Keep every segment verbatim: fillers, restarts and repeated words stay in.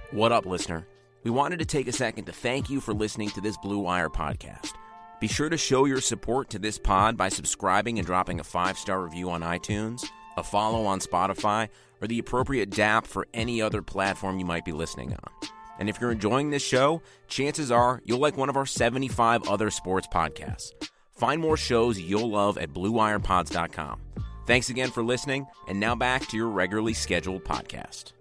What up, listener? We wanted to take a second to thank you for listening to this Blue Wire podcast. Be sure to show your support to this pod by subscribing and dropping a five-star review on iTunes, a follow on Spotify, or the appropriate dApp for any other platform you might be listening on. And if you're enjoying this show, chances are you'll like one of our seventy-five other sports podcasts. Find more shows you'll love at blue wire pods dot com. Thanks again for listening, and now back to your regularly scheduled podcast.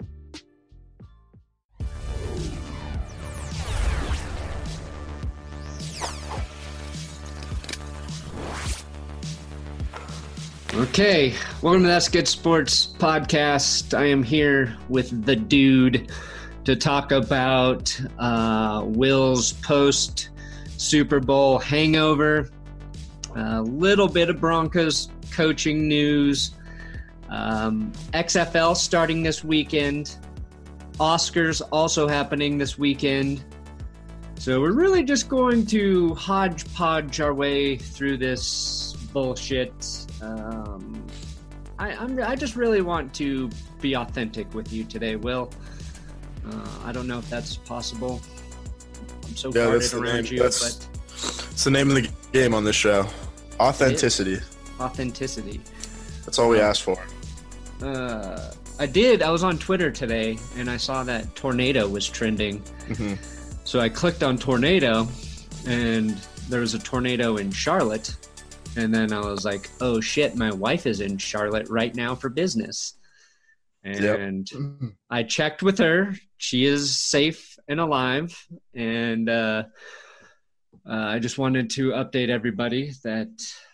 Okay, welcome to That's Good Sports podcast. I am here with the dude to talk about uh, Will's post Super Bowl hangover, a little bit of Broncos coaching news, um, X F L starting this weekend, Oscars also happening this weekend. So we're really just going to hodgepodge our way through this bullshit. Um, I, I'm, I just really want to be authentic with you today, Will. Uh, I don't know if that's possible. I'm so yeah, guarded around you, that's, but it's the name of the game on this show. Authenticity. Authenticity. That's all we uh, asked for. Uh, I did. I was on Twitter today, and I saw that tornado was trending. Mm-hmm. So I clicked on tornado, and there was a tornado in Charlotte. And then I was like, oh, shit, my wife is in Charlotte right now for business. And yep. I checked with her. She is safe and alive. And uh, uh, I just wanted to update everybody that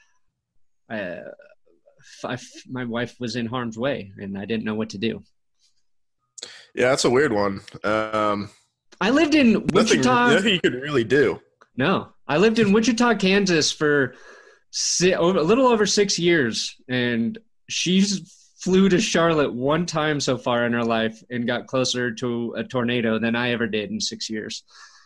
I, I, my wife was in harm's way, and I didn't know what to do. Yeah, that's a weird one. Um, I lived in Wichita. Nothing, nothing you could really do. No. I lived in Wichita, Kansas for – a little over six years, and she's flew to Charlotte one time so far in her life and got closer to a tornado than I ever did in six years.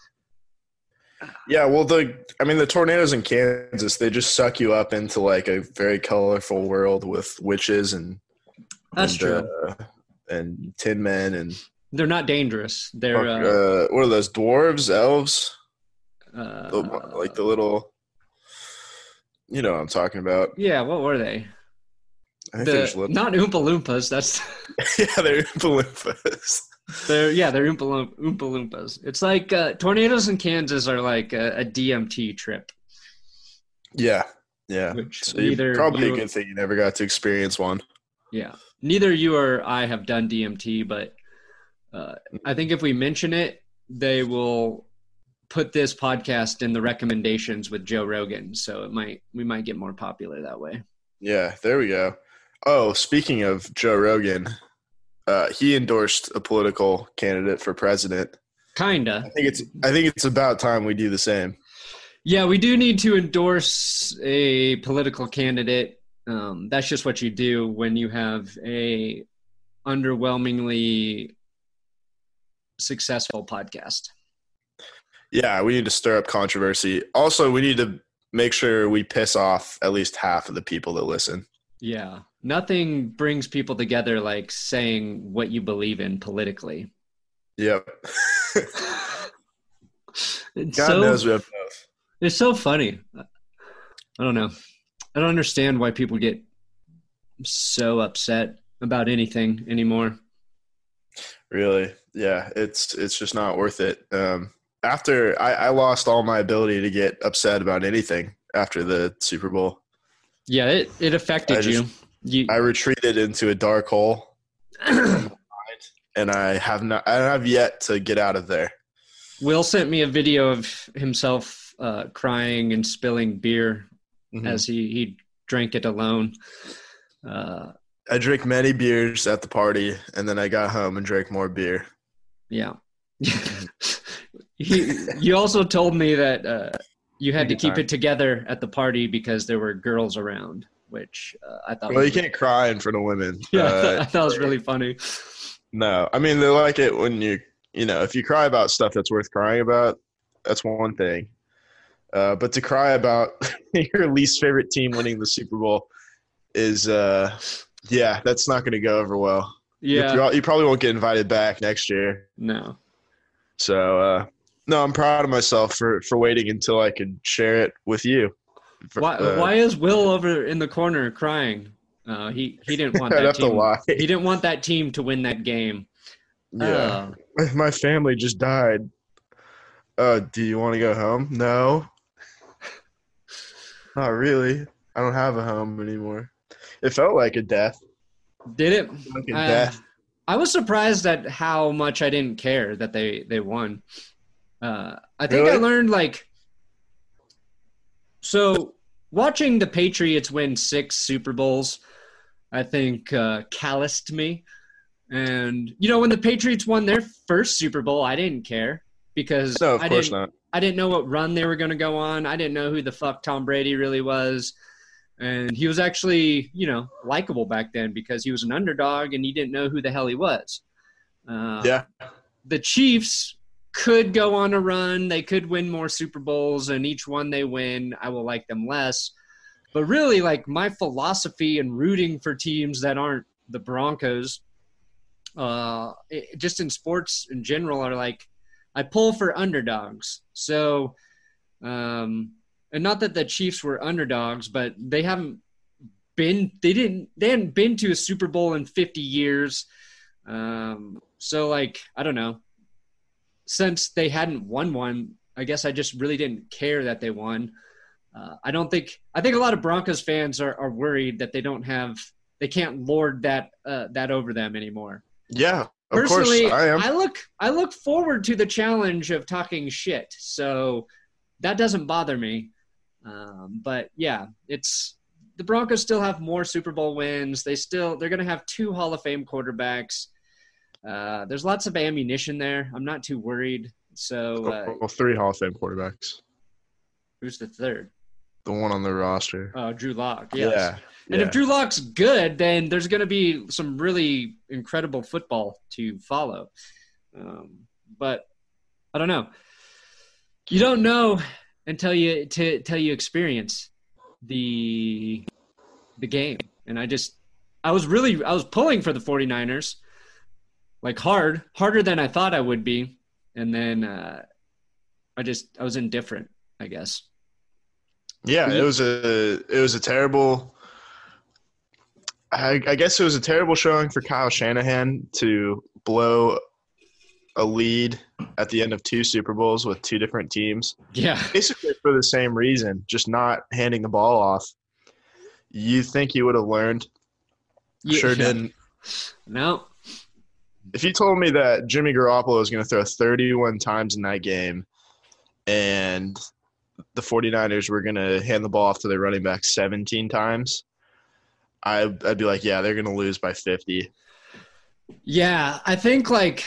Yeah, well, the I mean, the tornadoes in Kansas, they just suck you up into like a very colorful world with witches and that's and, true, uh, and tin men, and they're not dangerous. They're uh, uh, what are those, dwarves, elves, uh, the, like the little. You know what I'm talking about. Yeah, what were they? I think the, they're just little. Not Oompa Loompas. That's yeah, they're Oompa Loompas. They're yeah, they're Oompa, Loom- Oompa Loompas. It's like uh, tornadoes in Kansas are like a, a D M T trip. Yeah, yeah. Which so neither probably you, a good thing you never got to experience one. Yeah, neither you or I have done D M T, but uh, I think if we mention it, they will put this podcast in the recommendations with Joe Rogan, so it might we might get more popular that way. Yeah, there we go. Oh, speaking of Joe Rogan, uh, he endorsed a political candidate for president. Kinda. I think it's I think it's about time we do the same. Yeah, we do need to endorse a political candidate. Um, that's just what you do when you have a underwhelmingly successful podcast. Yeah, we need to stir up controversy. Also, we need to make sure we piss off at least half of the people that listen. Yeah. Nothing brings people together like saying what you believe in politically. Yep. God so, knows we have both. It's so funny. I don't know. I don't understand why people get so upset about anything anymore. Really? Yeah, it's it's just not worth it. Um After I, I lost all my ability to get upset about anything after the Super Bowl. Yeah, it, it affected I you. just, you. I retreated into a dark hole, and I have not. I have yet to get out of there. Will sent me a video of himself uh, crying and spilling beer mm-hmm. as he, he drank it alone. Uh, I drank many beers at the party, and then I got home and drank more beer. Yeah. He, you also told me that uh, you had to keep it together at the party because there were girls around, which uh, I thought. Well, was you can't cry in front of women. Yeah, uh, I, thought, I thought it was really funny. No, I mean they like it when you, you know, if you cry about stuff that's worth crying about, that's one thing. Uh, but to cry about your least favorite team winning the Super Bowl is, uh, yeah, that's not going to go over well. Yeah. You, you probably won't get invited back next year. No. So, uh, no, I'm proud of myself for, for waiting until I could share it with you. For, Why, uh, why is Will over in the corner crying? Uh, he, he didn't want I'd that have to team. lie. He didn't want that team to win that game. Yeah. Uh, My family just died. Uh, do you want to go home? No. Not really. I don't have a home anymore. It felt like a death. did it? Like a Uh, death. I was surprised at how much I didn't care that they, they won. Uh, I think I Really? learned like – so watching the Patriots win six Super Bowls, I think uh, calloused me. And, you know, when the Patriots won their first Super Bowl, I didn't care because No, of I course didn't, not. I didn't know what run they were going to go on. I didn't know who the fuck Tom Brady really was. And he was actually, you know, likable back then because he was an underdog and you didn't know who the hell he was. Uh, Yeah. The Chiefs could go on a run. They could win more Super Bowls, and each one they win, I will like them less. But really, like, my philosophy in rooting for teams that aren't the Broncos, uh, it, just in sports in general, are like, I pull for underdogs. So, um, and not that the Chiefs were underdogs, but they haven't been, they didn't, they hadn't been to a Super Bowl in fifty years. Um, so like, I don't know, since they hadn't won one, I guess I just really didn't care that they won. Uh, I don't think, I think a lot of Broncos fans are, are worried that they don't have, they can't lord that, uh, that over them anymore. Yeah, of Personally, course I am. I look I look forward to the challenge of talking shit, so that doesn't bother me. Um, but yeah, it's the Broncos still have more Super Bowl wins. They still they're going to have two Hall of Fame quarterbacks. Uh, there's lots of ammunition there. I'm not too worried. So uh, well, three Hall of Fame quarterbacks. who's the third? The one on the roster. Oh, Drew Lock. Yes. Yeah. And yeah. if Drew Lock's good, then there's going to be some really incredible football to follow. Um, but I don't know. You don't know until you to, until you experience the the game. And I just I was really I was pulling for the 49ers, like hard, harder than I thought I would be. And then uh, I just I was indifferent, I guess. Yeah, it was a it was a terrible. I, I guess it was a terrible showing for Kyle Shanahan to blow a lead at the end of two Super Bowls with two different teams. Yeah, Basically for the same reason, just not handing the ball off. You think he would have learned? Yeah. Sure didn't. No. If you told me that Jimmy Garoppolo was going to throw thirty-one times in that game and the 49ers were going to hand the ball off to their running back seventeen times, I, I'd be like, yeah, they're going to lose by fifty. Yeah, I think like,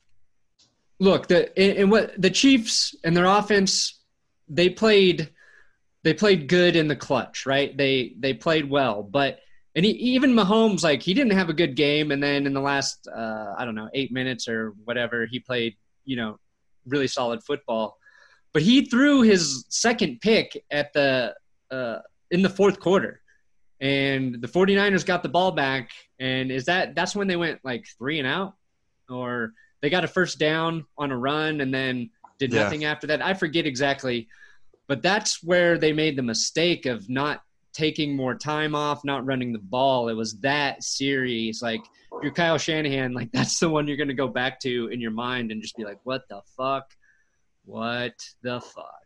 look, the in, in what the Chiefs and their offense, they played, they played good in the clutch, right? They they played well, but and he, even Mahomes, like he didn't have a good game, and then in the last, uh, I don't know, eight minutes or whatever, he played, you know, really solid football. But he threw his second pick at the uh, in the fourth quarter, and the 49ers got the ball back. And is that that's when they went like three and out, or they got a first down on a run and then did Yeah. nothing after that? I forget exactly, but that's where they made the mistake of not taking more time off, not running the ball. It was that series. Like if you're Kyle Shanahan, like that's the one you're going to go back to in your mind and just be like, what the fuck? What the fuck?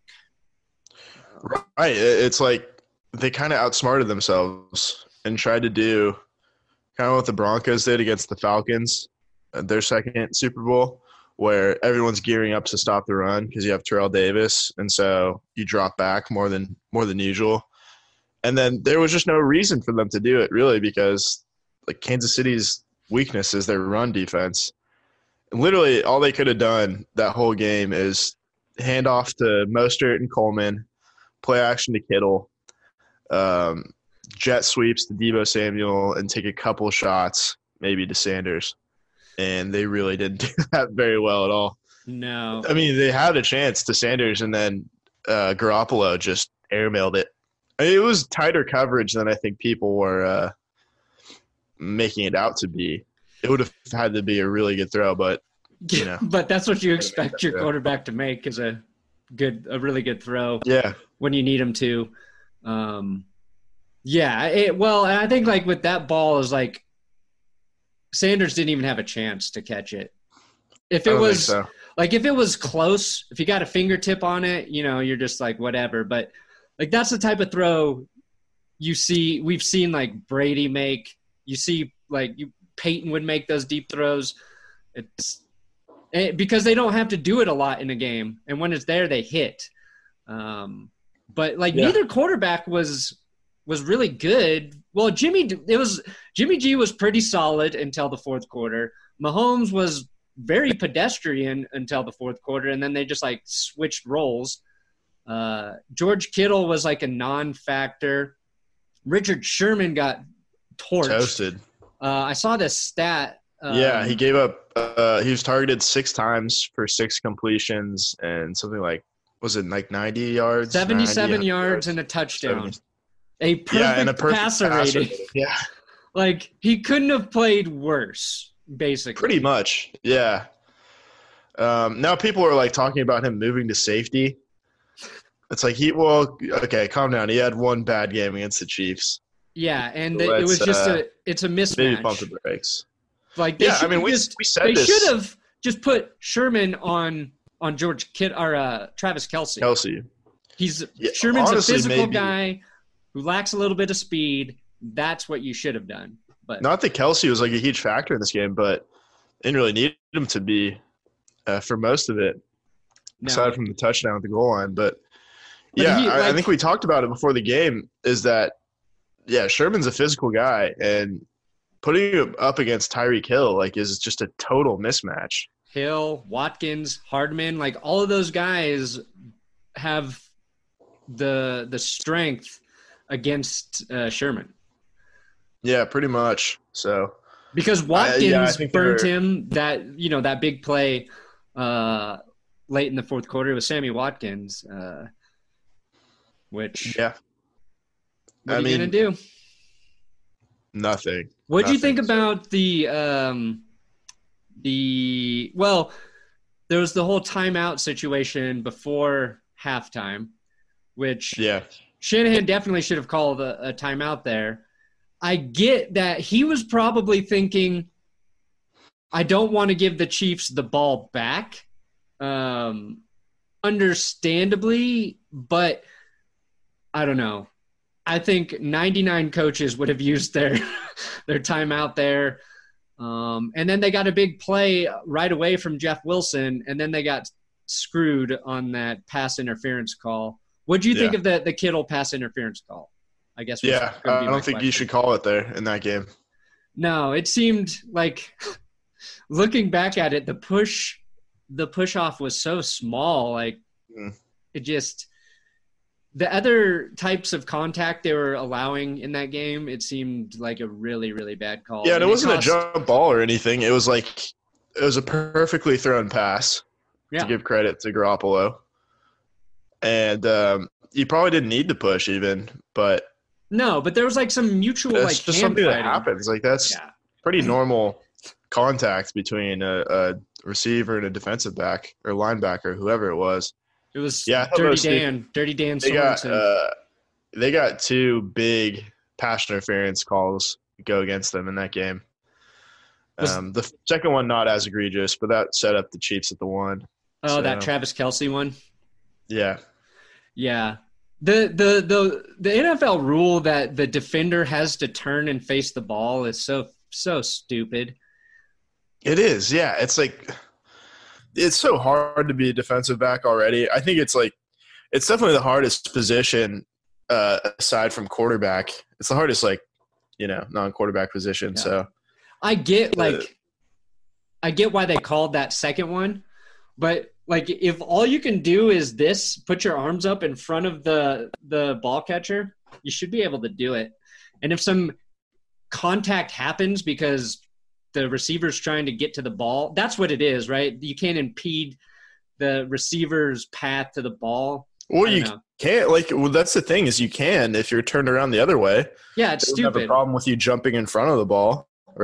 Right. It- It's like they kind of outsmarted themselves and tried to do kind of what the Broncos did against the Falcons, uh, their second Super Bowl, where everyone's gearing up to stop the run because you have Terrell Davis, and so you drop back more than more than usual. And then there was just no reason for them to do it, really, because like Kansas City's weakness is their run defense. And literally, all they could have done that whole game is hand off to Mostert and Coleman, play action to Kittle, um, jet sweeps to Deebo Samuel, and take a couple shots maybe to Sanders. And they really didn't do that very well at all. No. I mean, they had a chance to Sanders, and then uh, Garoppolo just airmailed it. I mean, it was tighter coverage than I think people were uh, making it out to be. it would have had to be a really good throw, but you know. But that's what you expect your quarterback to make, is a good, a really good throw. Yeah. When you need him to. Um, yeah. It, well, and I think like with that ball is like Sanders didn't even have a chance to catch it. If it was so. like if it was close, if you got a fingertip on it, you know, you're just like whatever. But like that's the type of throw you see. We've seen like Brady make. You see like you, Peyton would make those deep throws. It's it, because they don't have to do it a lot in a game, and when it's there, they hit. Um, but like yeah. neither quarterback was was really good. Well, Jimmy it was Jimmy G was pretty solid until the fourth quarter. Mahomes was very pedestrian until the fourth quarter, and then they just like switched roles. Uh, George Kittle was like a non-factor. Richard Sherman got torched. Toasted. Uh, I saw this stat. Um, yeah, he gave up. Uh, he was targeted six times for six completions and something like was it like ninety yards, seventy-seven ninety yards and a touchdown. seventy A perfect, yeah, and a perfect passer, passer rating. rating. Yeah, like he couldn't have played worse. Basically, pretty much, yeah. Um, now people are like talking about him moving to safety. It's like he, well, okay, calm down. He had one bad game against the Chiefs. Yeah, and So it was just uh, a, it's a mismatch. Maybe pump the brakes. Like they yeah, I mean, we just, we said they this. should have just put Sherman on on George Kitt or uh, Travis Kelce. Kelce. He's Yeah, Sherman's honestly, a physical maybe. guy who lacks a little bit of speed. That's what you should have done. But Not that Kelce was like a huge factor in this game, but didn't really need him to be uh, for most of it, no. aside from the touchdown at the goal line. But, But yeah, he, I, I like- think we talked about it before the game, is that, yeah, Sherman's a physical guy, and putting him up against Tyreek Hill, like, is just a total mismatch. Hill, Watkins, Hardman, like all of those guys have the the strength against uh, Sherman. Yeah, pretty much. So Because Watkins yeah, I think burnt they're- him that, you know, that big play uh, late in the fourth quarter with Sammy Watkins, uh, which yeah, what I are you mean, going to do? nothing. What do you think Nothing. about the um, the well? There was the whole timeout situation before halftime, which Yeah, Shanahan definitely should have called a, a timeout there. I get that he was probably thinking, I don't want to give the Chiefs the ball back, um, understandably, but I don't know. I think ninety-nine coaches would have used their their timeout there. Um, and then they got a big play right away from Jeff Wilson, and then they got screwed on that pass interference call. What do you think Yeah. of the, the Kittle pass interference call? I guess. was yeah. gonna I be don't my think you question. should call it there in that game. No, it seemed like looking back at it, the push, the push off was so small. Like Mm. it just, the other types of contact they were allowing in that game, it seemed like a really, really bad call. Yeah, and it And wasn't cost- a jump ball or anything. It was like it was a perfectly thrown pass. Yeah. To give credit to Garoppolo, and um, you probably didn't need to push even, but No, but there was like some mutual that's like just hand something fighting. that happens. Like that's Yeah. pretty normal contact between a, a receiver and a defensive back or linebacker, whoever it was. It was Yeah, I thought it Dirty was Steve- Dan, Dirty Dan They got Sorensen. uh, they got two big pass interference calls go against them in that game. Was- Um, the second one not as egregious, but that set up the Chiefs at the one. oh, so- that Travis Kelce one. Yeah, Yeah. The, the the the N F L rule that the defender has to turn and face the ball is so so stupid. it is. Yeah, it's like it's so hard to be a defensive back already. I think it's like it's definitely the hardest position uh, aside from quarterback. It's the hardest, like you know, non-quarterback position. Yeah. So I get Uh, like I get why they called that second one, but like if all you can do is this, put your arms up in front of the the ball catcher, you should be able to do it. And if some contact happens because the receiver's trying to get to the ball, that's what it is, right? You can't impede the receiver's path to the ball. Or I don't you know. can't, like, well, that's the thing is you can if you're turned around the other way. Yeah, it's They don't have a stupid. problem with you jumping in front of the ball, right?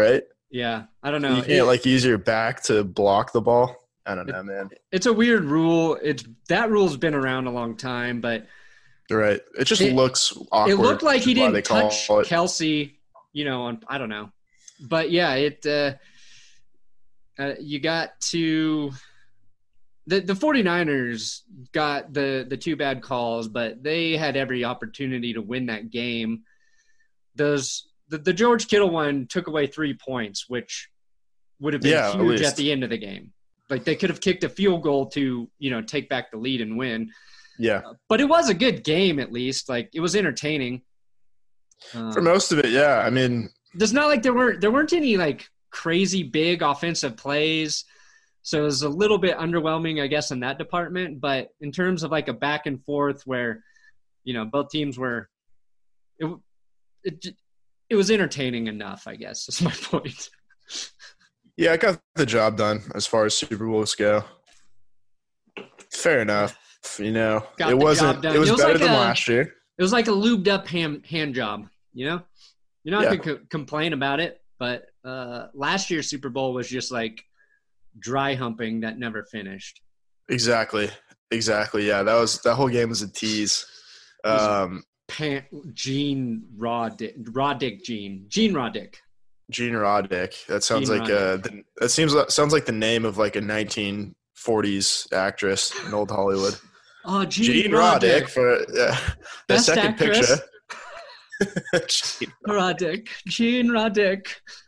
Yeah, I don't know. You can't It- like use your back to block the ball. I don't know, man. It's a weird rule. It's that rule's been around a long time, but Right. It just It- looks awkward. it looked like he is why didn't they call touch it- Kelsey, you know, on I don't know. But yeah, it uh, uh you got to the the 49ers got the the two bad calls, but they had every opportunity to win that game. Those the, the George Kittle one took away three points, which would have been Yeah, at huge least. at the end of the game. Like they could have kicked a field goal to, you know, take back the lead and win. Yeah. But it was a good game, at least. Like it was entertaining. Um, For most of it, yeah. I mean, It's not like there weren't there weren't any like crazy big offensive plays, so it was a little bit underwhelming, I guess, in that department. But in terms of like a back and forth where, you know, both teams were, it it it was entertaining enough, I guess. That's my point. yeah, it got the job done as far as Super Bowls go. Fair enough. You know, Got it the wasn't. job done. It was It was better like than a- last year. It was like a lubed up hand hand job, you know. You're not Yeah. gonna co- complain about it, but uh, last year's Super Bowl was just like dry humping that never finished. Exactly. Exactly. Yeah, that was that whole game was a tease. was- Um, Pan- Gene Roddick, Roddick Gene, Gene Roddick. Gene Roddick. That sounds Gene like uh the, that seems like, sounds like the name of like a nineteen forties actress in old Hollywood. Oh, Gene, Gene Roddick. Roddick for yeah. The Best second actress. picture. Gene- Roddick, Gene Roddick.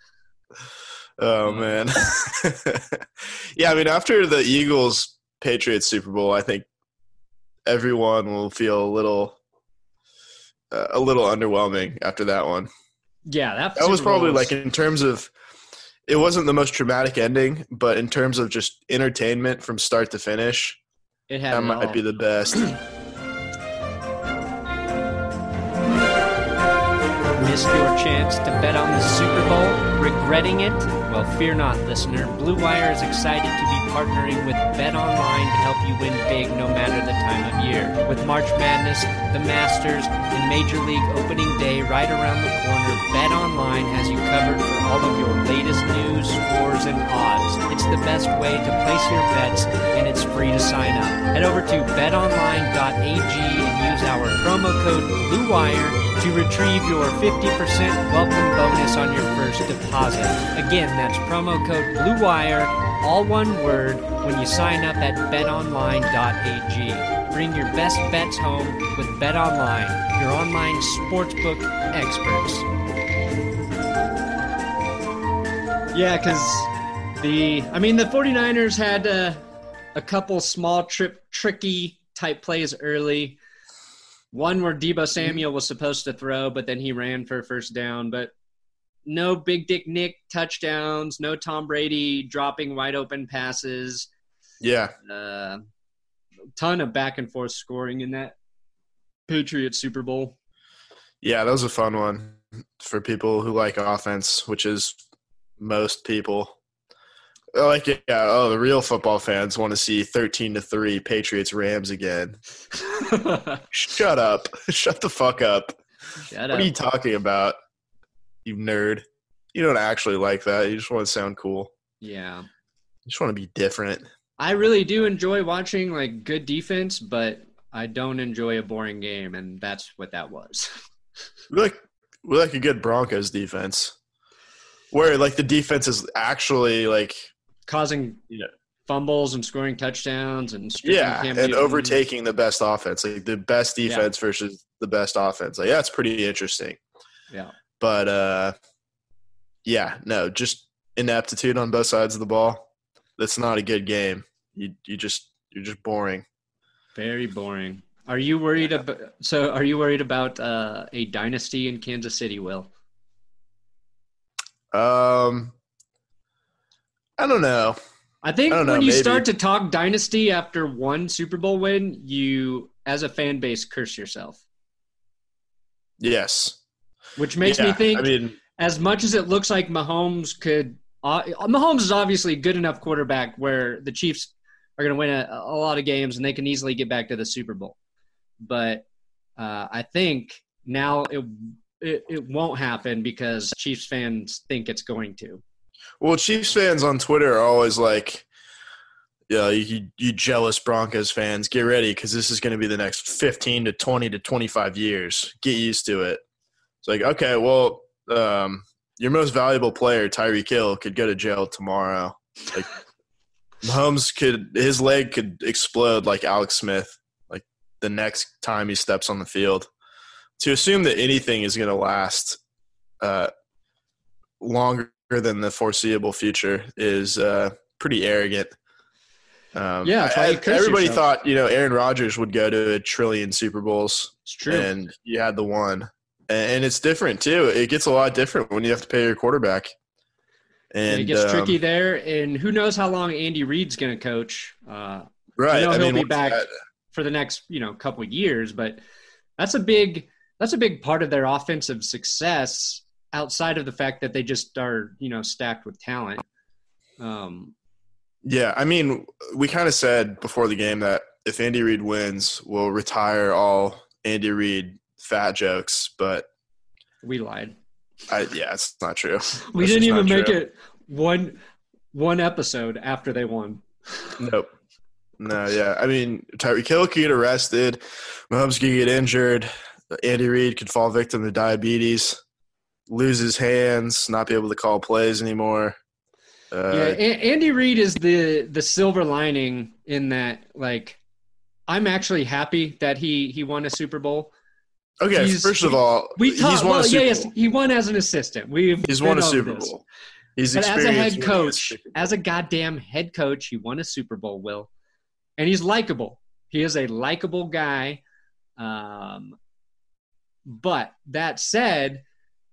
oh man. yeah, I mean after the Eagles Patriots Super Bowl, I think everyone will feel a little uh, a little underwhelming after that one. Yeah, that, That was Super Bowl probably like in terms of it wasn't the most traumatic ending, but in terms of just entertainment from start to finish, it had that it might all. be the best. Missed your chance to bet on the Super Bowl? Regretting it? Well, fear not, listener. Blue Wire is excited to be partnering with BetOnline to help you win big no matter the time of year. With March Madness, the Masters, and Major League Opening Day right around the corner, BetOnline has you covered for all of your latest news, scores, and odds. It's the best way to place your bets, and it's free to sign up. Head over to bet online dot a g and use our promo code BLUEWIRE to retrieve your fifty percent welcome bonus on your first deposit. Again, that's promo code BLUEWIRE, all one word, when you sign up at bet online dot a g. Bring your best bets home with BetOnline, your online sportsbook experts. Yeah, because the, I mean, the 49ers had uh, a couple small trip, tricky type plays early. One where Deebo Samuel was supposed to throw, but then he ran for a first down. But no Big Dick Nick touchdowns, no Tom Brady dropping wide open passes. Yeah. Uh, ton of back and forth scoring in that Patriots Super Bowl. Yeah, that was a fun one for people who like offense, which is most people. Like, yeah, oh, the real football fans want to see thirteen to three Patriots Rams again. Shut up. Shut the fuck up. Shut What up. are you talking about, you nerd? You don't actually like that. You just want to sound cool. Yeah. You just want to be different. I really do enjoy watching like good defense, but I don't enjoy a boring game, and that's what that was. We like we like a good Broncos defense, where like the defense is actually like Causing Yeah. fumbles and scoring touchdowns and stripping yeah, Cam and Newton. overtaking the best offense, like the best Yeah. defense versus the best offense. Like that's pretty interesting. Yeah. But uh, yeah, no, just ineptitude on both sides of the ball. That's not a good game. You you just you're just boring. Very boring. Are you worried about so are you worried about uh, a dynasty in Kansas City, Will? Um, I don't know. I think I don't know, when you maybe. start to talk dynasty after one Super Bowl win, you as a fan base curse yourself. Yes, Which makes Yeah, me think I mean, as much as it looks like Mahomes could uh, Mahomes is obviously a good enough quarterback where the Chiefs are going to win a, a lot of games and they can easily get back to the Super Bowl. But uh, I think now it, it it won't happen because Chiefs fans think it's going to. Well, Chiefs fans on Twitter are always like, yeah, you, you jealous Broncos fans, get ready because this is going to be the next fifteen to twenty to twenty-five years. Get used to it. It's like, okay, well, um, your most valuable player, Tyreek Hill, could go to jail tomorrow. Like, Mahomes could – his leg could explode like Alex Smith, like the next time he steps on the field. To assume that anything is going to last uh, longer than the foreseeable future is uh, pretty arrogant. Um, yeah, I, I, everybody yourself. thought, you know, Aaron Rodgers would go to a trillion Super Bowls. It's true. And you had the one. And, and it's different, too. It gets a lot different when you have to pay your quarterback. And it gets um, tricky there. And who knows how long Andy Reid's going to coach. Uh, right. You know, I he'll mean, be back that? for the next, you know, couple of years. But that's a big that's a big part of their offensive success outside of the fact that they just are, you know, stacked with talent. Um Yeah, I mean, we kind of said before the game that if Andy Reid wins, we'll retire all Andy Reid fat jokes, but we lied. I, yeah, it's not true. We That's didn't just even not make true. it one one episode after they won. Nope. No, yeah. I mean, Tyreek Hill could get arrested. Mahomes could get injured. Andy Reid could fall victim to diabetes, lose his hands, not be able to call plays anymore. Uh, yeah, a- Andy Reid is the the silver lining in that. Like, I'm actually happy that he he won a Super Bowl. Okay, He's- first of all, We he's talked. won Well, a Super yeah, yes, Bowl. he won as an assistant. We've He's been won a over Super this. Bowl. He's But as a experienced head winning coach, Super Bowl. as a goddamn head coach, he won a Super Bowl, Will. And he's likable. He is a likable guy. Um, but that said,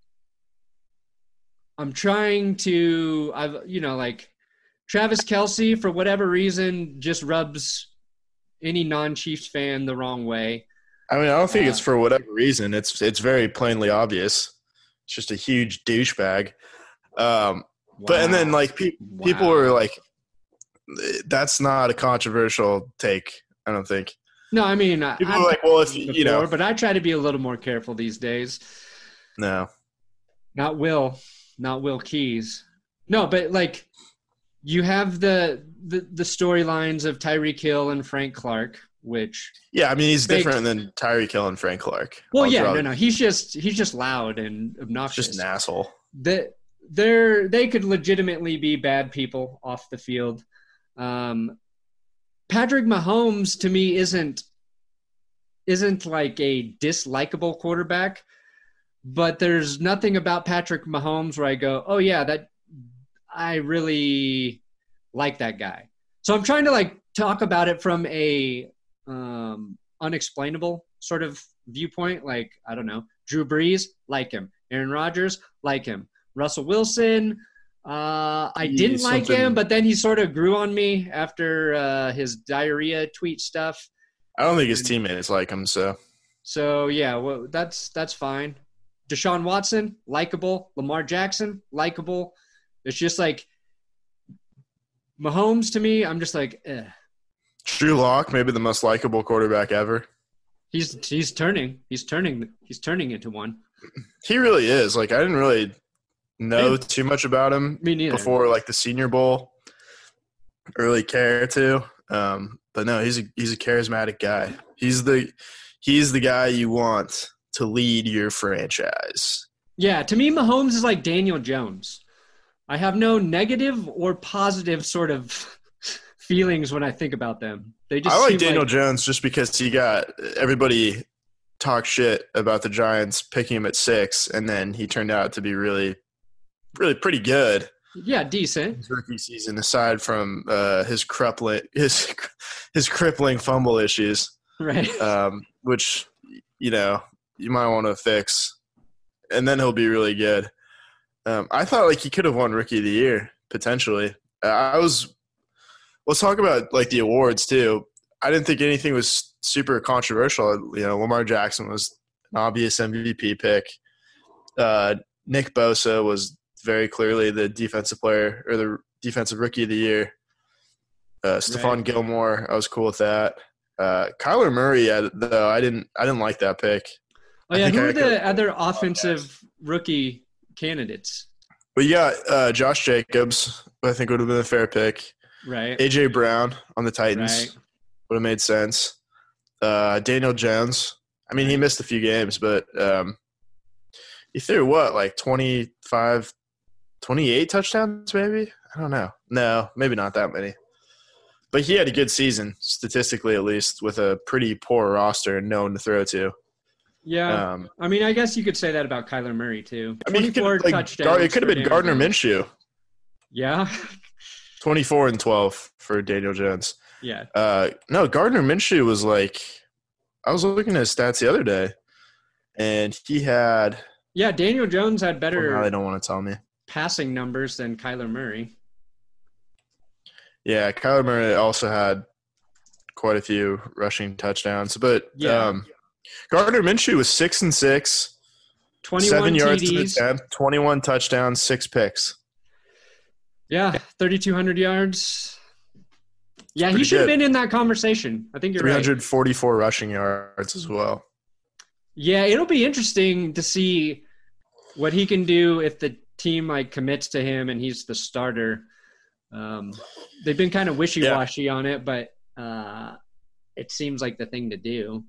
I'm trying to, I've, you know, like Travis Kelce, for whatever reason, just rubs any non-Chiefs fan the wrong way. I mean, I don't think Uh, it's for whatever reason. It's it's very plainly obvious. It's just a huge douchebag. Um, But and then Wow. like pe- people Wow. were like, that's not a controversial take. I don't think No, I mean, I- people I've are like, well, if done you it you know, before, but I try to be a little more careful these days. no, Not Will, not Will Keys. No, but like you have the the, the storylines of Tyreek Hill and Frank Clark, which yeah, I mean, he's Big- different than Tyreek Hill and Frank Clark. well, I'll yeah, draw- no, no, he's just he's just loud and he's obnoxious. just an asshole. That they're they could legitimately be bad people off the field. Um, Patrick Mahomes to me isn't isn't like a dislikable quarterback, but there's nothing about Patrick Mahomes where I go, oh yeah, that I really like that guy. So I'm trying to like talk about it from a um, unexplainable sort of viewpoint. Like, I don't know, Drew Brees, like him. Aaron Rodgers, like him. Russell Wilson, uh, I He's didn't like something- him, but then he sort of grew on me after uh, his diarrhea tweet stuff. I don't think his teammates like him. So So yeah, well, that's that's fine. Deshaun Watson, likable. Lamar Jackson, likable. It's just like Mahomes to me. I'm just like, eh. Drew Lock, maybe the most likable quarterback ever. He's he's turning. He's turning. He's turning into one. He really is. Like I didn't really know too much about him Me neither. before like the Senior Bowl. Really care to, um, but no, he's a he's a charismatic guy. He's the he's the guy you want to lead your franchise. Yeah, to me, Mahomes is like Daniel Jones. I have no negative or positive sort of feelings when I think about them. They just I like seem Daniel like, Jones just because he got everybody talk shit about the Giants picking him at six, and then he turned out to be really, really pretty good. yeah, decent. His rookie season, aside from uh, his crippling his his crippling fumble issues, Right. um, which you know you might want to fix, and then he'll be really good. Um, I thought like he could have won Rookie of the Year potentially. Uh, I was. Let's talk about like the awards too. I didn't think anything was super controversial. You know, Lamar Jackson was an obvious M V P pick. Uh, Nick Bosa was very clearly the defensive player or the defensive rookie of the year. Uh, Stephon Right. Gilmore, I was cool with that. Uh, Kyler Murray, I, though, I didn't, I didn't like that pick. Oh I yeah, think who I are the could- other offensive rookie candidates? But you got uh, Josh Jacobs, who I think would have been a fair pick. Right. A J Brown on the Titans Right. would have made sense. Uh, Daniel Jones. I mean, he Right. missed a few games, but um, he threw what, like twenty-five, twenty-eight touchdowns maybe? I don't know. No, maybe not that many. But he had a good season, statistically at least, with a pretty poor roster and no one to throw to. Yeah. Um, I mean, I guess you could say that about Kyler Murray, too. I mean, it could, twenty-four like, touchdowns. Gar- it could have for been Daniel Gardner Jones. Minshew. Yeah. twenty-four and twelve for Daniel Jones. Yeah. Uh, no, Gardner Minshew was like – I was looking at his stats the other day, and he had Yeah, Daniel Jones had – better well, now they don't want to tell me. passing numbers than Kyler Murray. Yeah, Kyler Murray also had quite a few rushing touchdowns. But Yeah. um, Gardner Minshew was six and six, twenty-one seven yards T to the Ds. attempt, twenty-one touchdowns, six picks. Yeah, thirty-two hundred yards. Yeah, he pretty should have good. been in that conversation. I think you're three right. hundred forty-four rushing yards as well. Yeah, it'll be interesting to see what he can do if the team like commits to him and he's the starter. Um, they've been kind of wishy-washy on it, but uh, it seems like the thing to do.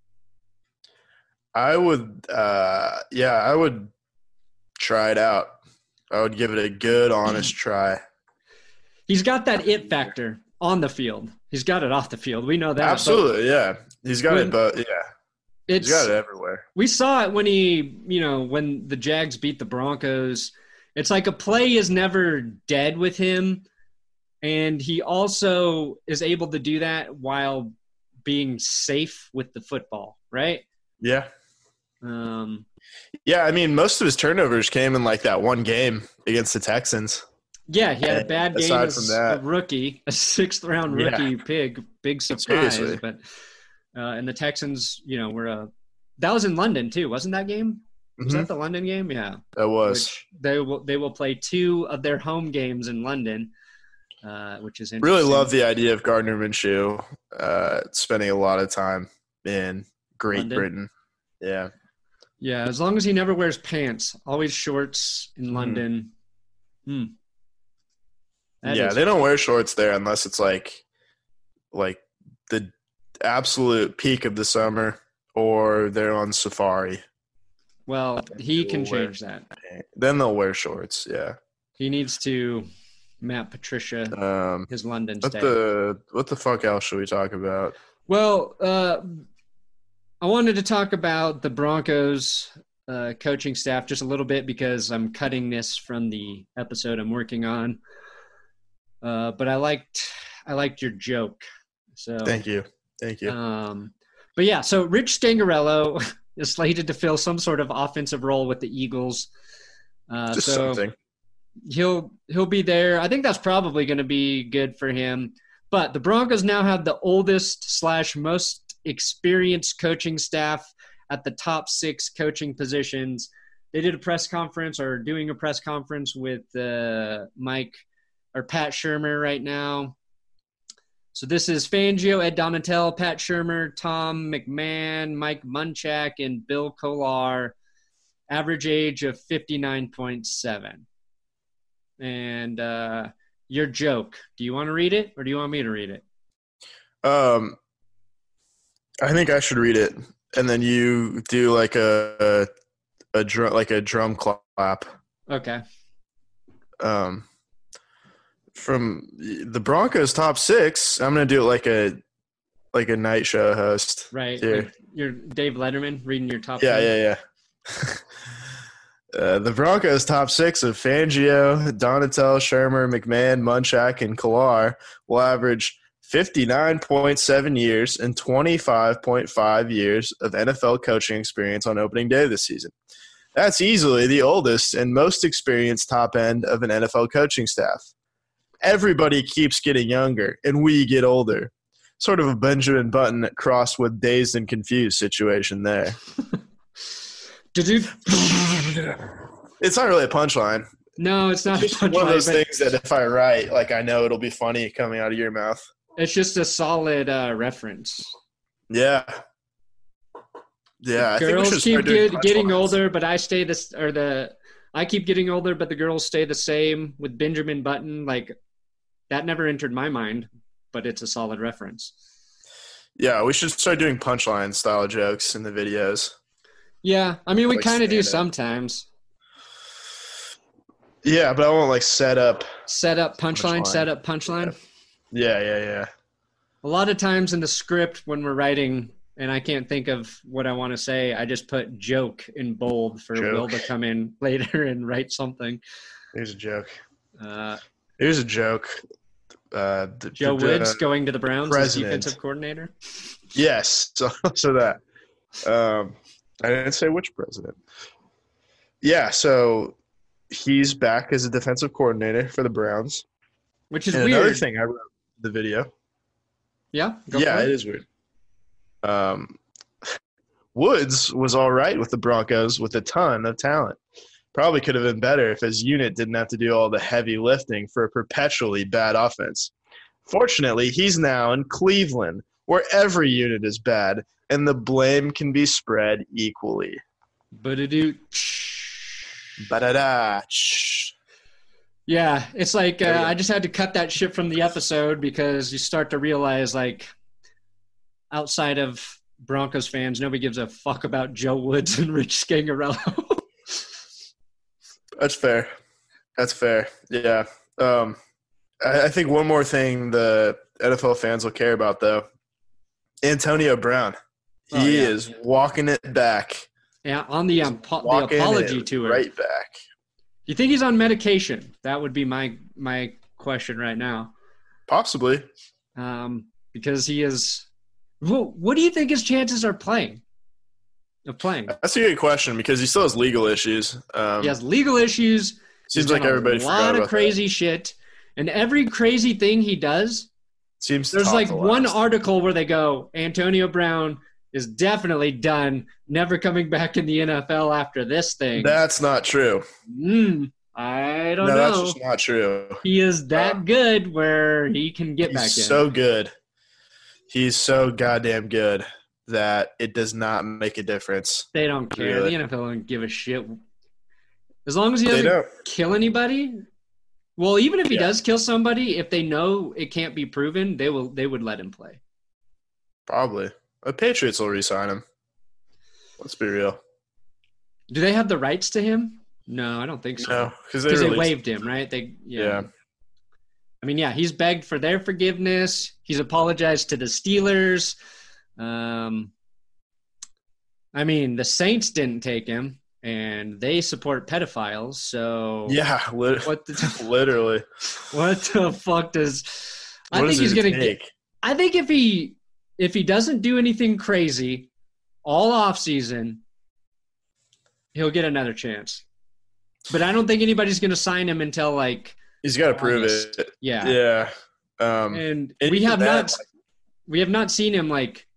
I would, uh, yeah, I would try it out. I would give it a good, honest try. He's got that it factor on the field. He's got it off the field. We know that. but Absolutely, yeah. He's got When- it, but yeah, It's, he's got it everywhere. we saw it when he, you know, when the Jags beat the Broncos. It's like a play is never dead with him. And he also is able to do that while being safe with the football, right? Yeah. Um, Yeah, I mean, most of his turnovers came in like that one game against the Texans. yeah, he had a bad game Aside as from that- a rookie, a sixth-round Yeah. rookie pig, big surprise. Seriously. But uh, and the Texans, you know, were a that was in London too, wasn't that game? Was Mhm. that the London game? Yeah. That was. Which they will they will play two of their home games in London, uh, which is Really interesting. love the idea of Gardner Minshew uh, spending a lot of time in Great London? Britain. Yeah. Yeah, as long as he never wears pants, always shorts in London. Hmm. That yeah, is- they don't wear shorts there unless it's like like the absolute peak of the summer or they're on safari. Well, he can People wear- change that. Then they'll wear shorts, yeah. He needs to map Patricia Um, his London what stay. the what the fuck else should we talk about? Well, uh, I wanted to talk about the Broncos uh, coaching staff just a little bit because I'm cutting this from the episode I'm working on. Uh, but I liked I liked your joke. So Thank you. Thank you. Um, but yeah, so Rich Stangarello is slated to fill some sort of offensive role with the Eagles. Uh, Just so something. he'll he'll be there. I think that's probably going to be good for him. But the Broncos now have the oldest slash most experienced coaching staff at the top six coaching positions. They did a press conference or doing a press conference with uh, Mike or Pat Shurmur right now. So this is Fangio, Ed Donatel, Pat Shurmur, Tom McMahon, Mike Munchak, and Bill Kolar. Average age of fifty-nine point seven. And uh, your joke, do you want to read it or do you want me to read it? Um, I think I should read it, and then you do like a a, a drum like a drum clap. Okay. Um, from the Broncos top six, I'm gonna do it like a like a night show host. Right. Here. Like you're Dave Letterman reading your top Yeah, ten. yeah, yeah. uh, the Broncos top six of Fangio, Donatel, Shermer, McMahon, Munchak, and Kolar will average fifty-nine point seven years and twenty-five point five years of N F L coaching experience on opening day this season. That's easily the oldest and most experienced top end of an N F L coaching staff. Everybody keeps getting younger, and we get older. Sort of a Benjamin Button crossed with Dazed and Confused situation there. Did you? It's not really a punchline. No, it's not. a It's just one of punchline, those but things that if I write, like I know it'll be funny coming out of your mouth. It's just a solid uh, reference. Yeah. Yeah. I think we Girls should keep start doing get, getting punchlines. older, but I stay this or the I keep getting older, but the girls stay the same. With Benjamin Button, like that never entered my mind, but it's a solid reference. Yeah, we should start doing punchline style jokes in the videos. Yeah, I mean, we Like kind of do stand-up. sometimes. Yeah, but I won't like set up. Set up punchline, Punchline. set up punchline. Yeah, yeah, yeah. A lot of times in the script when we're writing and I can't think of what I want to say, I just put joke in bold for Joke. Will to come in later and write something. Here's a joke. Uh, Here's a joke. Uh, the, Joe the, Woods uh, going to the Browns as president. defensive coordinator. Yes, so, so that. Um, I didn't say which president. Yeah, so he's back as a defensive coordinator for the Browns. Which is and weird. another thing I wrote in the video. Yeah? Go Yeah, for it it. is weird. Um, Woods was all right with the Broncos with a ton of talent. Probably could have been better if his unit didn't have to do all the heavy lifting for a perpetually bad offense. Fortunately, he's now in Cleveland, where every unit is bad, and the blame can be spread equally. Ba-da-doo. Ba-da-da. Yeah, it's like uh, There you go. I just had to cut that shit from the episode because you start to realize, like, outside of Broncos fans, nobody gives a fuck about Joe Woods and Rich Scangarello. That's fair. That's fair. Yeah. Um, I, I think one more thing the N F L fans will care about, though. Antonio Brown. He Oh, yeah. is walking it back. Yeah, on the, um, po- the Walking apology it tour. right back. Do you think he's on medication? That would be my my question right now. Possibly. Um, because he is – what do you think his chances are playing? Of playing? That's a good question because he still has legal issues. Um, He has legal issues. seems He's like done everybody a forgot lot about of crazy shit. And every crazy thing he does – that. Seems there's top like to one last. article where they go, Antonio Brown is definitely done, never coming back in the N F L after this thing. That's not true. Mm, I don't No, know. that's just not true. He is that Uh, good where he can get back in. He's so good. He's so goddamn good that it does not make a difference. They don't care. Really? The N F L don't give a shit. As long as he They doesn't don't. kill anybody. Well, even if he Yeah. does kill somebody, if they know it can't be proven, they will. They would let him play. Probably. The Patriots will re-sign him. Let's be real. Do they have the rights to him? No, I don't think so. No, because they, Because they released- waived him, right? They yeah. Yeah. I mean, yeah, he's begged for their forgiveness. He's apologized to the Steelers. Um, I mean, the Saints didn't take him, and they support pedophiles. So Yeah, lit- what? The, literally. what the fuck does? I What think does he's it gonna take? get. I think if he if he doesn't do anything crazy all off season, he'll get another chance. But I don't think anybody's gonna sign him until like He's got to prove August. it. yeah. Yeah. Um, And and we even have that, not we have not seen him like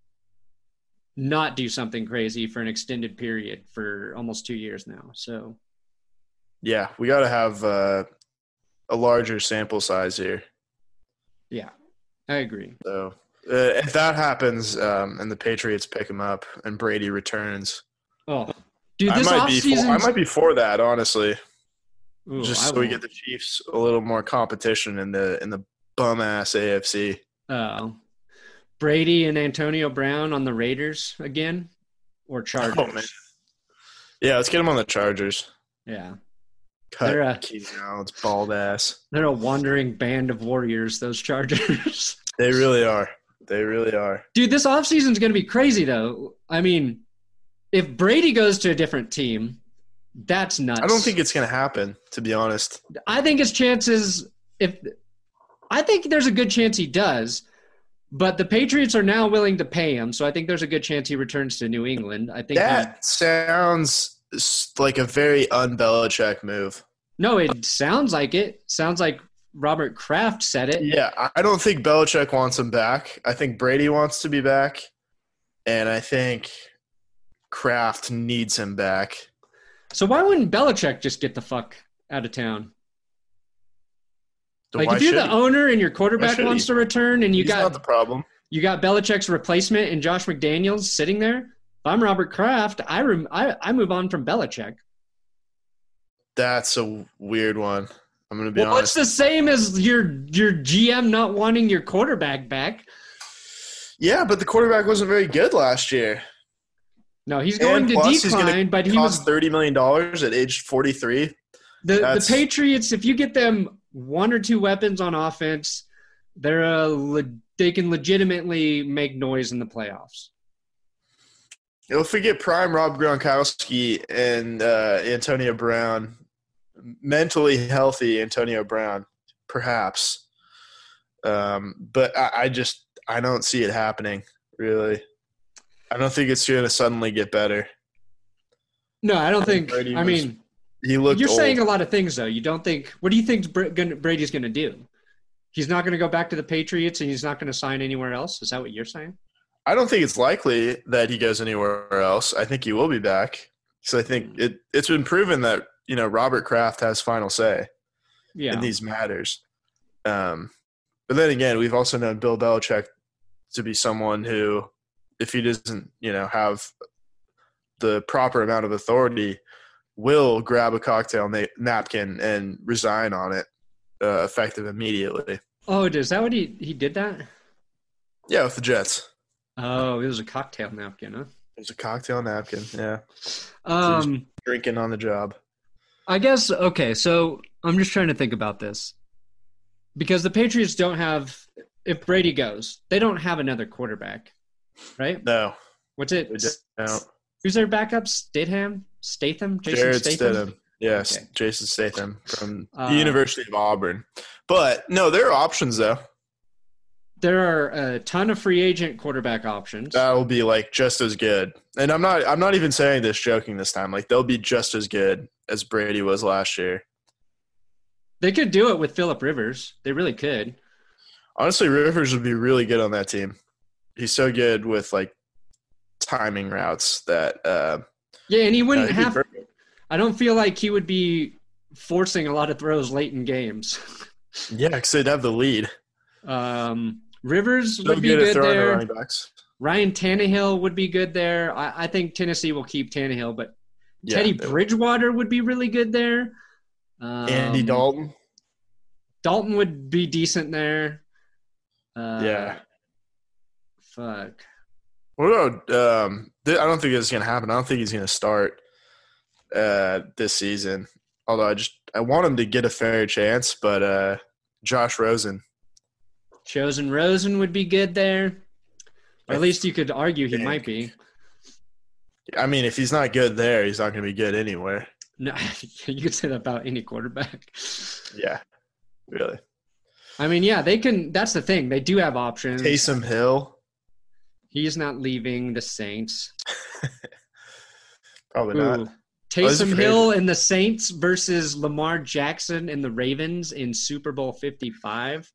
not do something crazy for an extended period for almost two years now. So yeah, we got to have uh, a larger sample size here. yeah, I agree. So uh, if that happens um, and the Patriots pick him up and Brady returns, Oh, dude, I this might be for, offseason I might be for that, honestly. Ooh, Just I so we won't. get the Chiefs a little more competition in the in the bum ass A F C. Uh, Brady and Antonio Brown on the Raiders again, or Chargers. Oh, man. Yeah, let's get him on the Chargers. Yeah, Cut They're a- Keenan Allen's bald ass. they're a wandering band of warriors. Those Chargers. They really are. They really are. Dude, this offseason is going to be crazy, though. I mean, if Brady goes to a different team, that's nuts. I don't think it's going to happen, to be honest. I think his chances, if I think there's a good chance he does, but the Patriots are now willing to pay him, so I think there's a good chance he returns to New England. I think he, That sounds s- like a very un-Belichick move. no, it sounds like it. Sounds like Robert Kraft said it. Yeah, I- I don't think Belichick wants him back. I think Brady wants to be back, and I think Kraft needs him back. So why wouldn't Belichick just get the fuck out of town? So Like why if you're should the he? owner and your quarterback should wants he? to return, and you He's got not the problem. you got Belichick's replacement and Josh McDaniels sitting there. If I'm Robert Kraft, I rem- I, I move on from Belichick. That's a weird one. I'm going to be well, honest. it's the same as your your G M not wanting your quarterback back. Yeah, but the quarterback wasn't very good last year. No, he's going And to plus, he's decline, gonna but he cost was thirty million dollars at age forty-three. the That's- the Patriots. If you get them one or two weapons on offense, they're a le- they can legitimately make noise in the playoffs. If we get prime Rob Gronkowski and uh, Antonio Brown, mentally healthy Antonio Brown, perhaps. Um, but I, I just I don't see it happening, really. I don't think it's going to suddenly get better. No, I don't think. Brady I was- mean, He looked you're old. saying a lot of things, though. You don't think. What do you think Br- gonna- Brady's going to do? He's not going to go back to the Patriots, and he's not going to sign anywhere else. Is that what you're saying? I don't think it's likely that he goes anywhere else. I think he will be back. So I think it, it's been proven that, you know, Robert Kraft has final say Yeah. in these matters. Um, but then again, we've also known Bill Belichick to be someone who, if he doesn't, you know, have the proper amount of authority, will grab a cocktail na- napkin and resign on it, uh, effective immediately. Oh, is that what he he did that? Yeah, with the Jets. Oh, it was a cocktail napkin, huh? It was a cocktail napkin. Yeah, Um, drinking on the job. I guess okay. So I'm just trying to think about this because the Patriots don't have. If Brady goes, they don't have another quarterback, right? No, What's it? we don't. Who's their backup? Statham? Statham? Jason Jared Statham? Stidham. Yes, Okay. Jason Statham from Uh, the University of Auburn. But no, there are options though. There are a ton of free agent quarterback options. That will be like just as good. And I'm not I'm not even saying this joking this time. Like they'll be just as good as Brady was last year. They could do it with Phillip Rivers. They really could. Honestly, Rivers would be really good on that team. He's so good with like timing routes that uh Yeah, and he uh, wouldn't he'd be have perfect. I don't feel like he would be forcing a lot of throws late in games. Yeah, because they'd have the lead. Um, Rivers So would be good at good throwing to there. running backs. Ryan Tannehill would be good there. I, I think Tennessee will keep Tannehill, but Yeah, Teddy they would. Bridgewater would be really good there. Um, Andy Dalton. Dalton would be decent there. Uh, Yeah. Fuck. What about um th- I don't think it's gonna happen. I don't think he's gonna start uh this season. Although I just I want him to get a fair chance, but uh Josh Rosen. Chosen Rosen would be good there. Or I at least you could argue he think- might be. I mean, if he's not good there, he's not gonna be good anywhere. No, you could say that about any quarterback. Yeah. Really. I mean, yeah, they can. That's the thing. They do have options. Taysom Hill. He's not leaving the Saints. Probably Ooh. not. Oh, Taysom he's a free Hill and the Saints versus Lamar Jackson and the Ravens in Super Bowl fifty-five.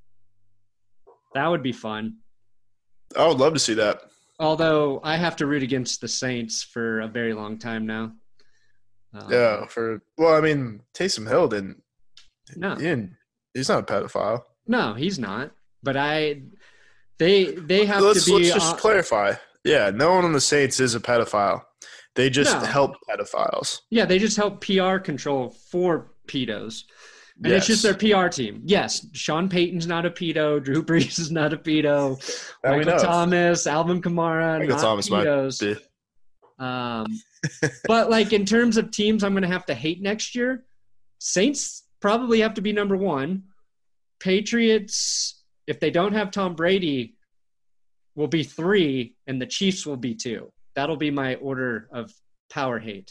That would be fun. I would love to see that. Although I have to root against the Saints for a very long time now. Um, Yeah, for well, I mean, Taysom Hill didn't, No, he didn't he's not a pedophile. no, he's not. But I, they, they have let's, to be. let's just uh, clarify. Yeah, no one on the Saints is a pedophile. They just No. help pedophiles. yeah, they just help P R control for pedos. And it's just Yes. their P R team. Yes, Sean Payton's not a pedo. Drew Brees is not a pedo. That we Michael know. Thomas, Alvin Kamara, Michael not Thomas might pedos. be. Um, but like in terms of teams, I'm going to have to hate next year. Saints probably have to be number one. Patriots, if they don't have Tom Brady, will be three, and the Chiefs will be two. That'll be my order of power hate.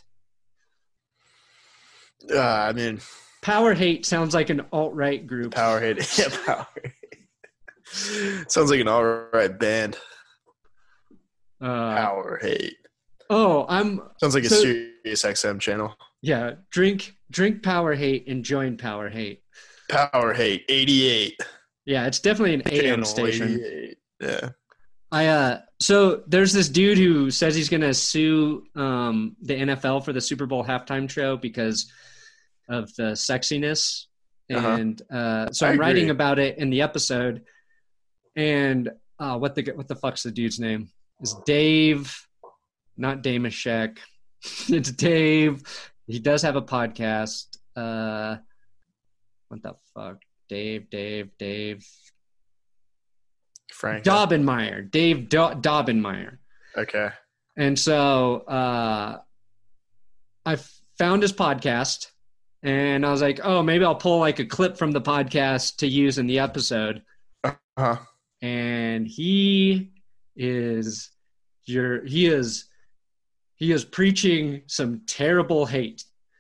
Uh, I mean, Power hate sounds like an alt-right group. power hate. Yeah, power hate. Sounds like an all right band. Uh, Power hate. oh, I'm Sounds like a so- Sirius X M channel. yeah. Drink, drink power hate and join power hate. Power hate eighty-eight. Yeah, it's definitely an A M Channel station. eighty-eight. Yeah. I uh so there's this dude who says he's gonna sue um the N F L for the Super Bowl halftime show because of the sexiness. Uh-huh. And uh so I I'm writing agree. about it in the episode. And uh what the what the fuck's the dude's name? Is Dave, not Damashek. It's Dave He does have a podcast. Uh, what the fuck? Dave, Dave, Dave. Frank. Daubenmire. Dave Do- Daubenmire. Okay. And so uh, I found his podcast, and I was like, oh, maybe I'll pull like a clip from the podcast to use in the episode. Uh-huh. And he is your he is he is preaching some terrible hate.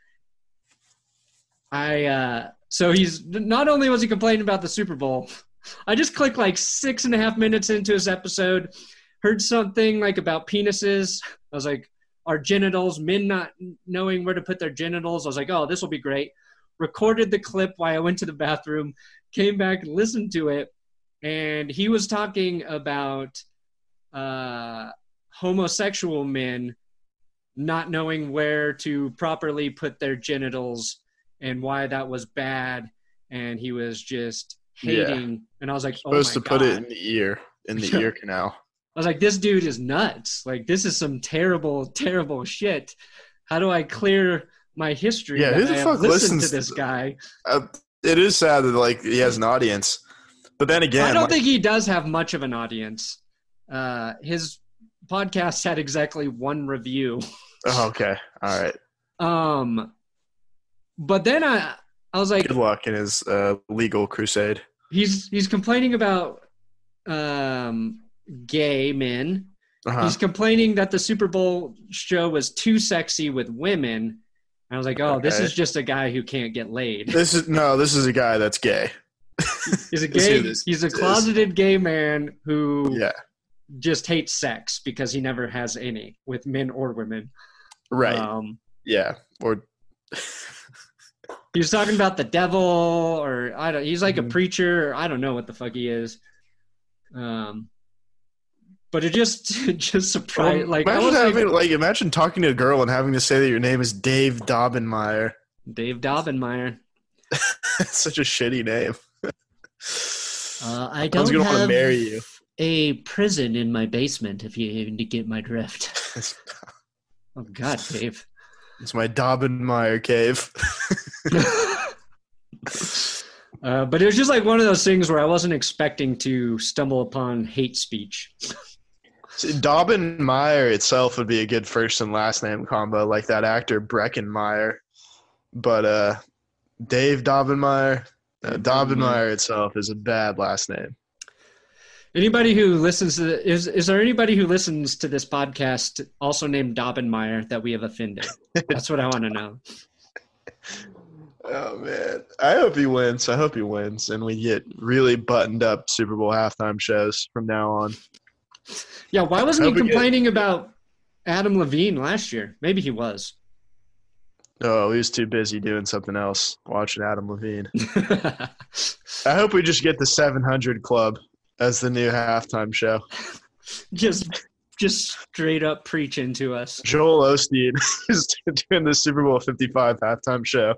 I uh, so he's not only was he complaining about the Super Bowl, I just clicked like six and a half minutes into his episode, heard something like about penises. I was like, our genitals, men not knowing where to put their genitals. I was like, oh, this will be great. Recorded the clip while I went to the bathroom, came back and listened to it. And he was talking about uh, homosexual men not knowing where to properly put their genitals and why that was bad. And he was just hating. Yeah. And I was like, oh my God. Supposed to put it in the ear, in the ear canal. I was like, this dude is nuts. Like, this is some terrible, terrible shit. How do I clear my history? Yeah, who the I fuck listens to this guy? Uh, it is sad that, like, he has an audience. But then again, I don't like, think he does have much of an audience. Uh, his podcast had exactly one review. Oh, okay. All right. Um, but then I, I was like, good luck in his uh, legal crusade. He's he's complaining about um, gay men. Uh-huh. He's complaining that the Super Bowl show was too sexy with women. I was like, oh, okay. This is just a guy who can't get laid. This is no, this is a guy that's gay. He's a gay. He's a closeted is. gay man who yeah. just hates sex because he never has any with men or women. Right. Um, yeah. Or he was talking about the devil, or I don't. He's like mm-hmm. a preacher. Or I don't know what the fuck he is. Um, but it just it just surprised. Well, like, imagine I was having, like, like imagine talking to a girl and having to say that your name is Dave Daubenmire. Dave Daubenmire. That's such a shitty name. Uh, I don't gonna have marry you. a prison in my basement, if you even get my drift. Oh, God, Dave. It's my Daubenmire cave. uh, but it was just like one of those things where I wasn't expecting to stumble upon hate speech. See, Daubenmire itself would be a good first and last name combo, like that actor Breckenmeyer. But uh, Dave Daubenmire... Uh, Daubenmire itself is a bad last name. Anybody who listens to the, is is there anybody who listens to this podcast also named Daubenmire that we have offended? That's what I want to know. Oh man, I hope he wins. I hope he wins, and we get really buttoned up Super Bowl halftime shows from now on. Yeah, why wasn't he complaining about Adam Levine last year? Maybe he was. Oh, he was too busy doing something else, watching Adam Levine. I hope we just get the seven hundred Club as the new halftime show. Just just straight up preaching to us. Joel Osteen is doing the Super Bowl fifty-five halftime show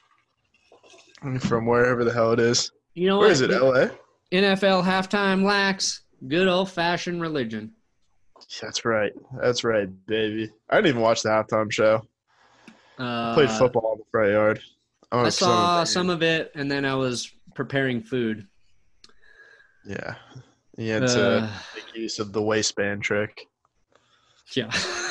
from wherever the hell it is. You know Where what? is it, L A? N F L halftime lacks good old-fashioned religion. That's right. That's right, baby. I didn't even watch the halftime show. Uh, I played football in the front yard. I saw some of it, and then I was preparing food. Yeah. He had to uh, make use of the waistband trick. Yeah.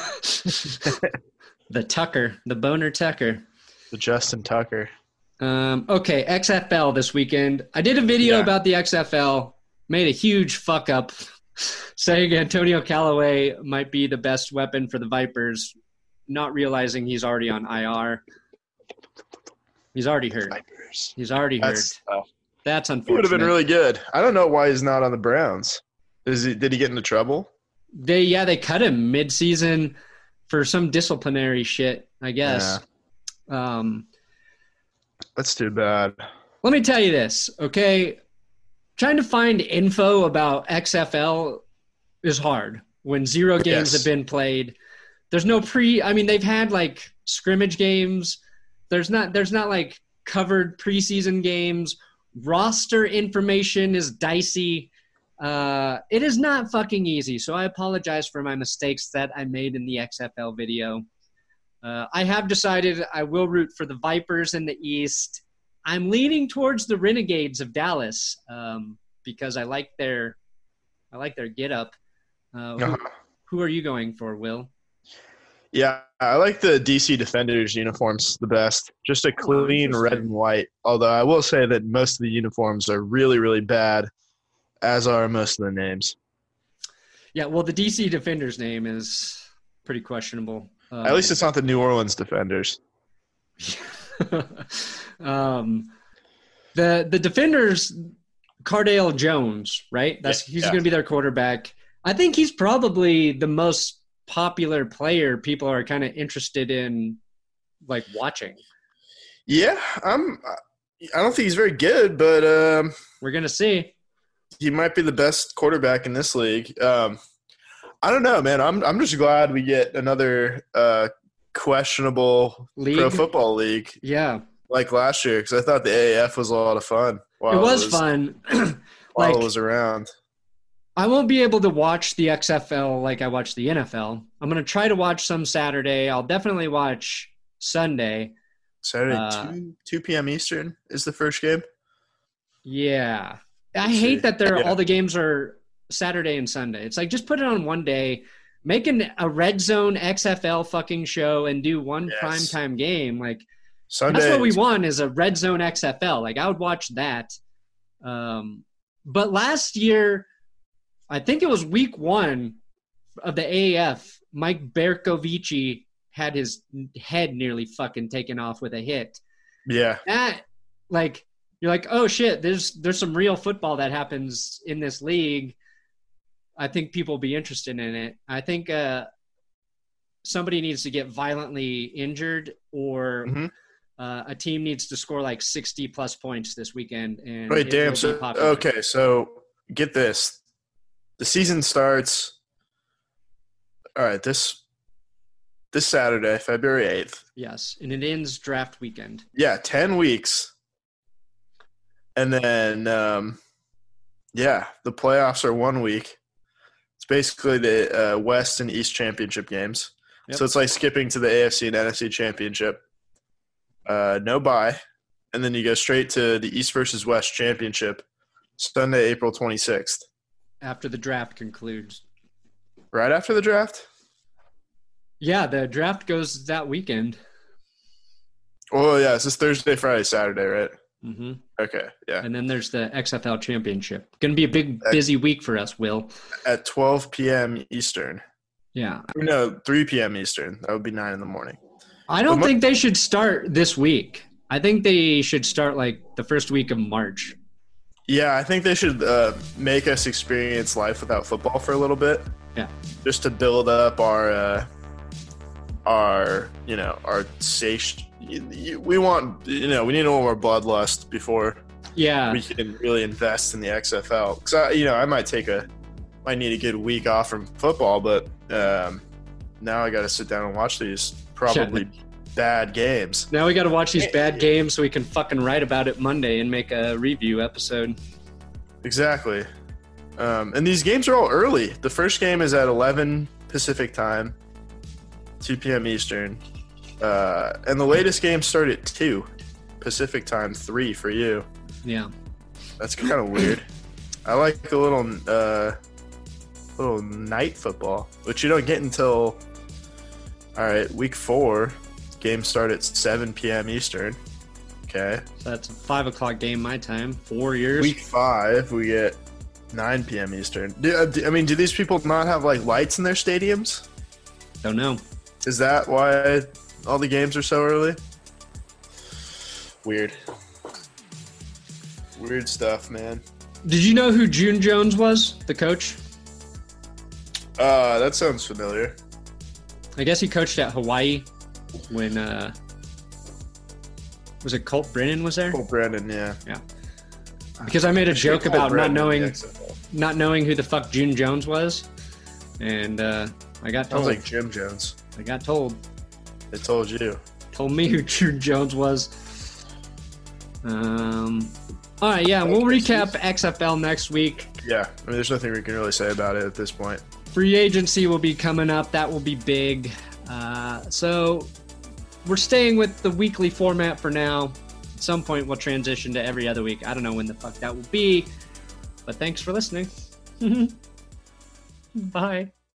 The Tucker, the Boner Tucker. The Justin Tucker. Um, okay, X F L this weekend. I did a video yeah. about the X F L, made a huge fuck up, saying Antonio Callaway might be the best weapon for the Vipers, not realizing he's already on I R. He's already hurt. Vipers. He's already That's hurt. Tough. That's unfortunate. He would have been really good. I don't know why he's not on the Browns. Is he? Did he get into trouble? They yeah, they cut him mid-season for some disciplinary shit, I guess. Yeah. Um, That's too bad. Let me tell you this, okay? Trying to find info about X F L is hard when zero games yes. have been played. There's no pre – I mean, they've had, like, scrimmage games. There's not There's not, like, covered preseason games. Roster information is dicey. Uh, it is not fucking easy, so I apologize for my mistakes that I made in the X F L video. Uh, I have decided I will root for the Vipers in the East. I'm leaning towards the Renegades of Dallas um, because I like their I like their get up. Uh, who, Uh-huh. who are you going for, Will? Yeah, I like the D C Defenders uniforms the best. Just a clean red and white. Although I will say that most of the uniforms are really, really bad, as are most of the names. Yeah, well, the D C Defenders name is pretty questionable. Um, At least it's not the New Orleans Defenders. um, the the Defenders, Cardale Jones, right? That's Yeah, he's yeah. going to be their quarterback. I think he's probably the most popular player people are kind of interested in, like, watching. Yeah, I'm. I don't think he's very good, but um, We're going to see. he might be the best quarterback in this league. Um, I don't know, man. I'm I'm just glad we get another uh, questionable League? pro football league Yeah, like last year because I thought the A A F was a lot of fun. While it was, fun. while like, it was around. I won't be able to watch the X F L like I watch the N F L. I'm going to try to watch some Saturday. I'll definitely watch Sunday. Saturday, Uh, two two p.m. Eastern is the first game. Yeah. I Let's hate see. that they're Yeah. all the games are Saturday and Sunday. It's like just put it on one day, make an, a red zone X F L fucking show and do one Yes. primetime game. Like Sunday. that's what we want is a red zone X F L. Like I would watch that. Um, but last year, I think it was week one of the A A F, Mike Bercovici had his head nearly fucking taken off with a hit. Yeah. That, like, you're like, oh shit, there's there's some real football that happens in this league. I think people will be interested in it. I think uh, somebody needs to get violently injured or Mhm. uh, a team needs to score like sixty plus points this weekend. And Wait, it damn. will be So, popular. okay, so get this. The season starts. All right, this this Saturday, February eighth. Yes, and it ends draft weekend. Yeah, ten weeks. And then, um, yeah, the playoffs are one week. It's basically the uh, West and East championship games. Yep. So it's like skipping to the A F C and N F C championship. Uh, no bye. And then you go straight to the East versus West championship, Sunday, April twenty-sixth. After the draft concludes. Right after the draft? Yeah, the draft goes that weekend. Oh, yeah, it's this Thursday, Friday, Saturday, right? Mm-hmm. Okay, yeah. And then there's the X F L championship. Going to be a big, busy week for us, Will. At twelve p.m. Eastern. Yeah. No, three p.m. Eastern. That would be nine in the morning. I don't But my- think they should start this week. I think they should start like the first week of March. Yeah, I think they should uh, make us experience life without football for a little bit. Yeah. Just to build up our, uh, our, you know, our sati- We want, you know, we need a little more bloodlust before Yeah. we can really invest in the X F L. Because I, you know, I might take a, might need a good week off from football, but um, now I got to sit down and watch these probably bad games. Now we got to watch these bad games so we can fucking write about it Monday and make a review episode. Exactly. Um, and these games are all early. The first game is at eleven Pacific time, two p.m. Eastern. Uh, and the latest game started at two Pacific time, three for you. Yeah. That's kind of weird. I like a little uh, little night football, which you don't get until, all right, week four. Games start at seven p.m. Eastern. Okay. So that's a five o'clock game my time. Four years. Week five, we get nine p.m. Eastern. Do, uh, do- I mean, do these people not have like lights in their stadiums? Don't know. Is that why all the games are so early? Weird. Weird stuff, man. Did you know who June Jones was, the coach? Uh, that sounds familiar. I guess he coached at Hawaii when, uh, was it Colt Brennan was there? Cole Brennan, yeah. Because I made a joke Cole about not Brennan in the knowing X F L. not knowing who the fuck June Jones was, and uh, I got Sounds told. like Jim Jones. I got told. They told you. Told me who June Jones was. Um. All right, yeah, we'll recap X F L next week. Yeah, I mean, there's nothing we can really say about it at this point. Free agency will be coming up. That will be big. Uh, so we're staying with the weekly format for now. At some point, we'll transition to every other week. I don't know when the fuck that will be, but thanks for listening. Bye.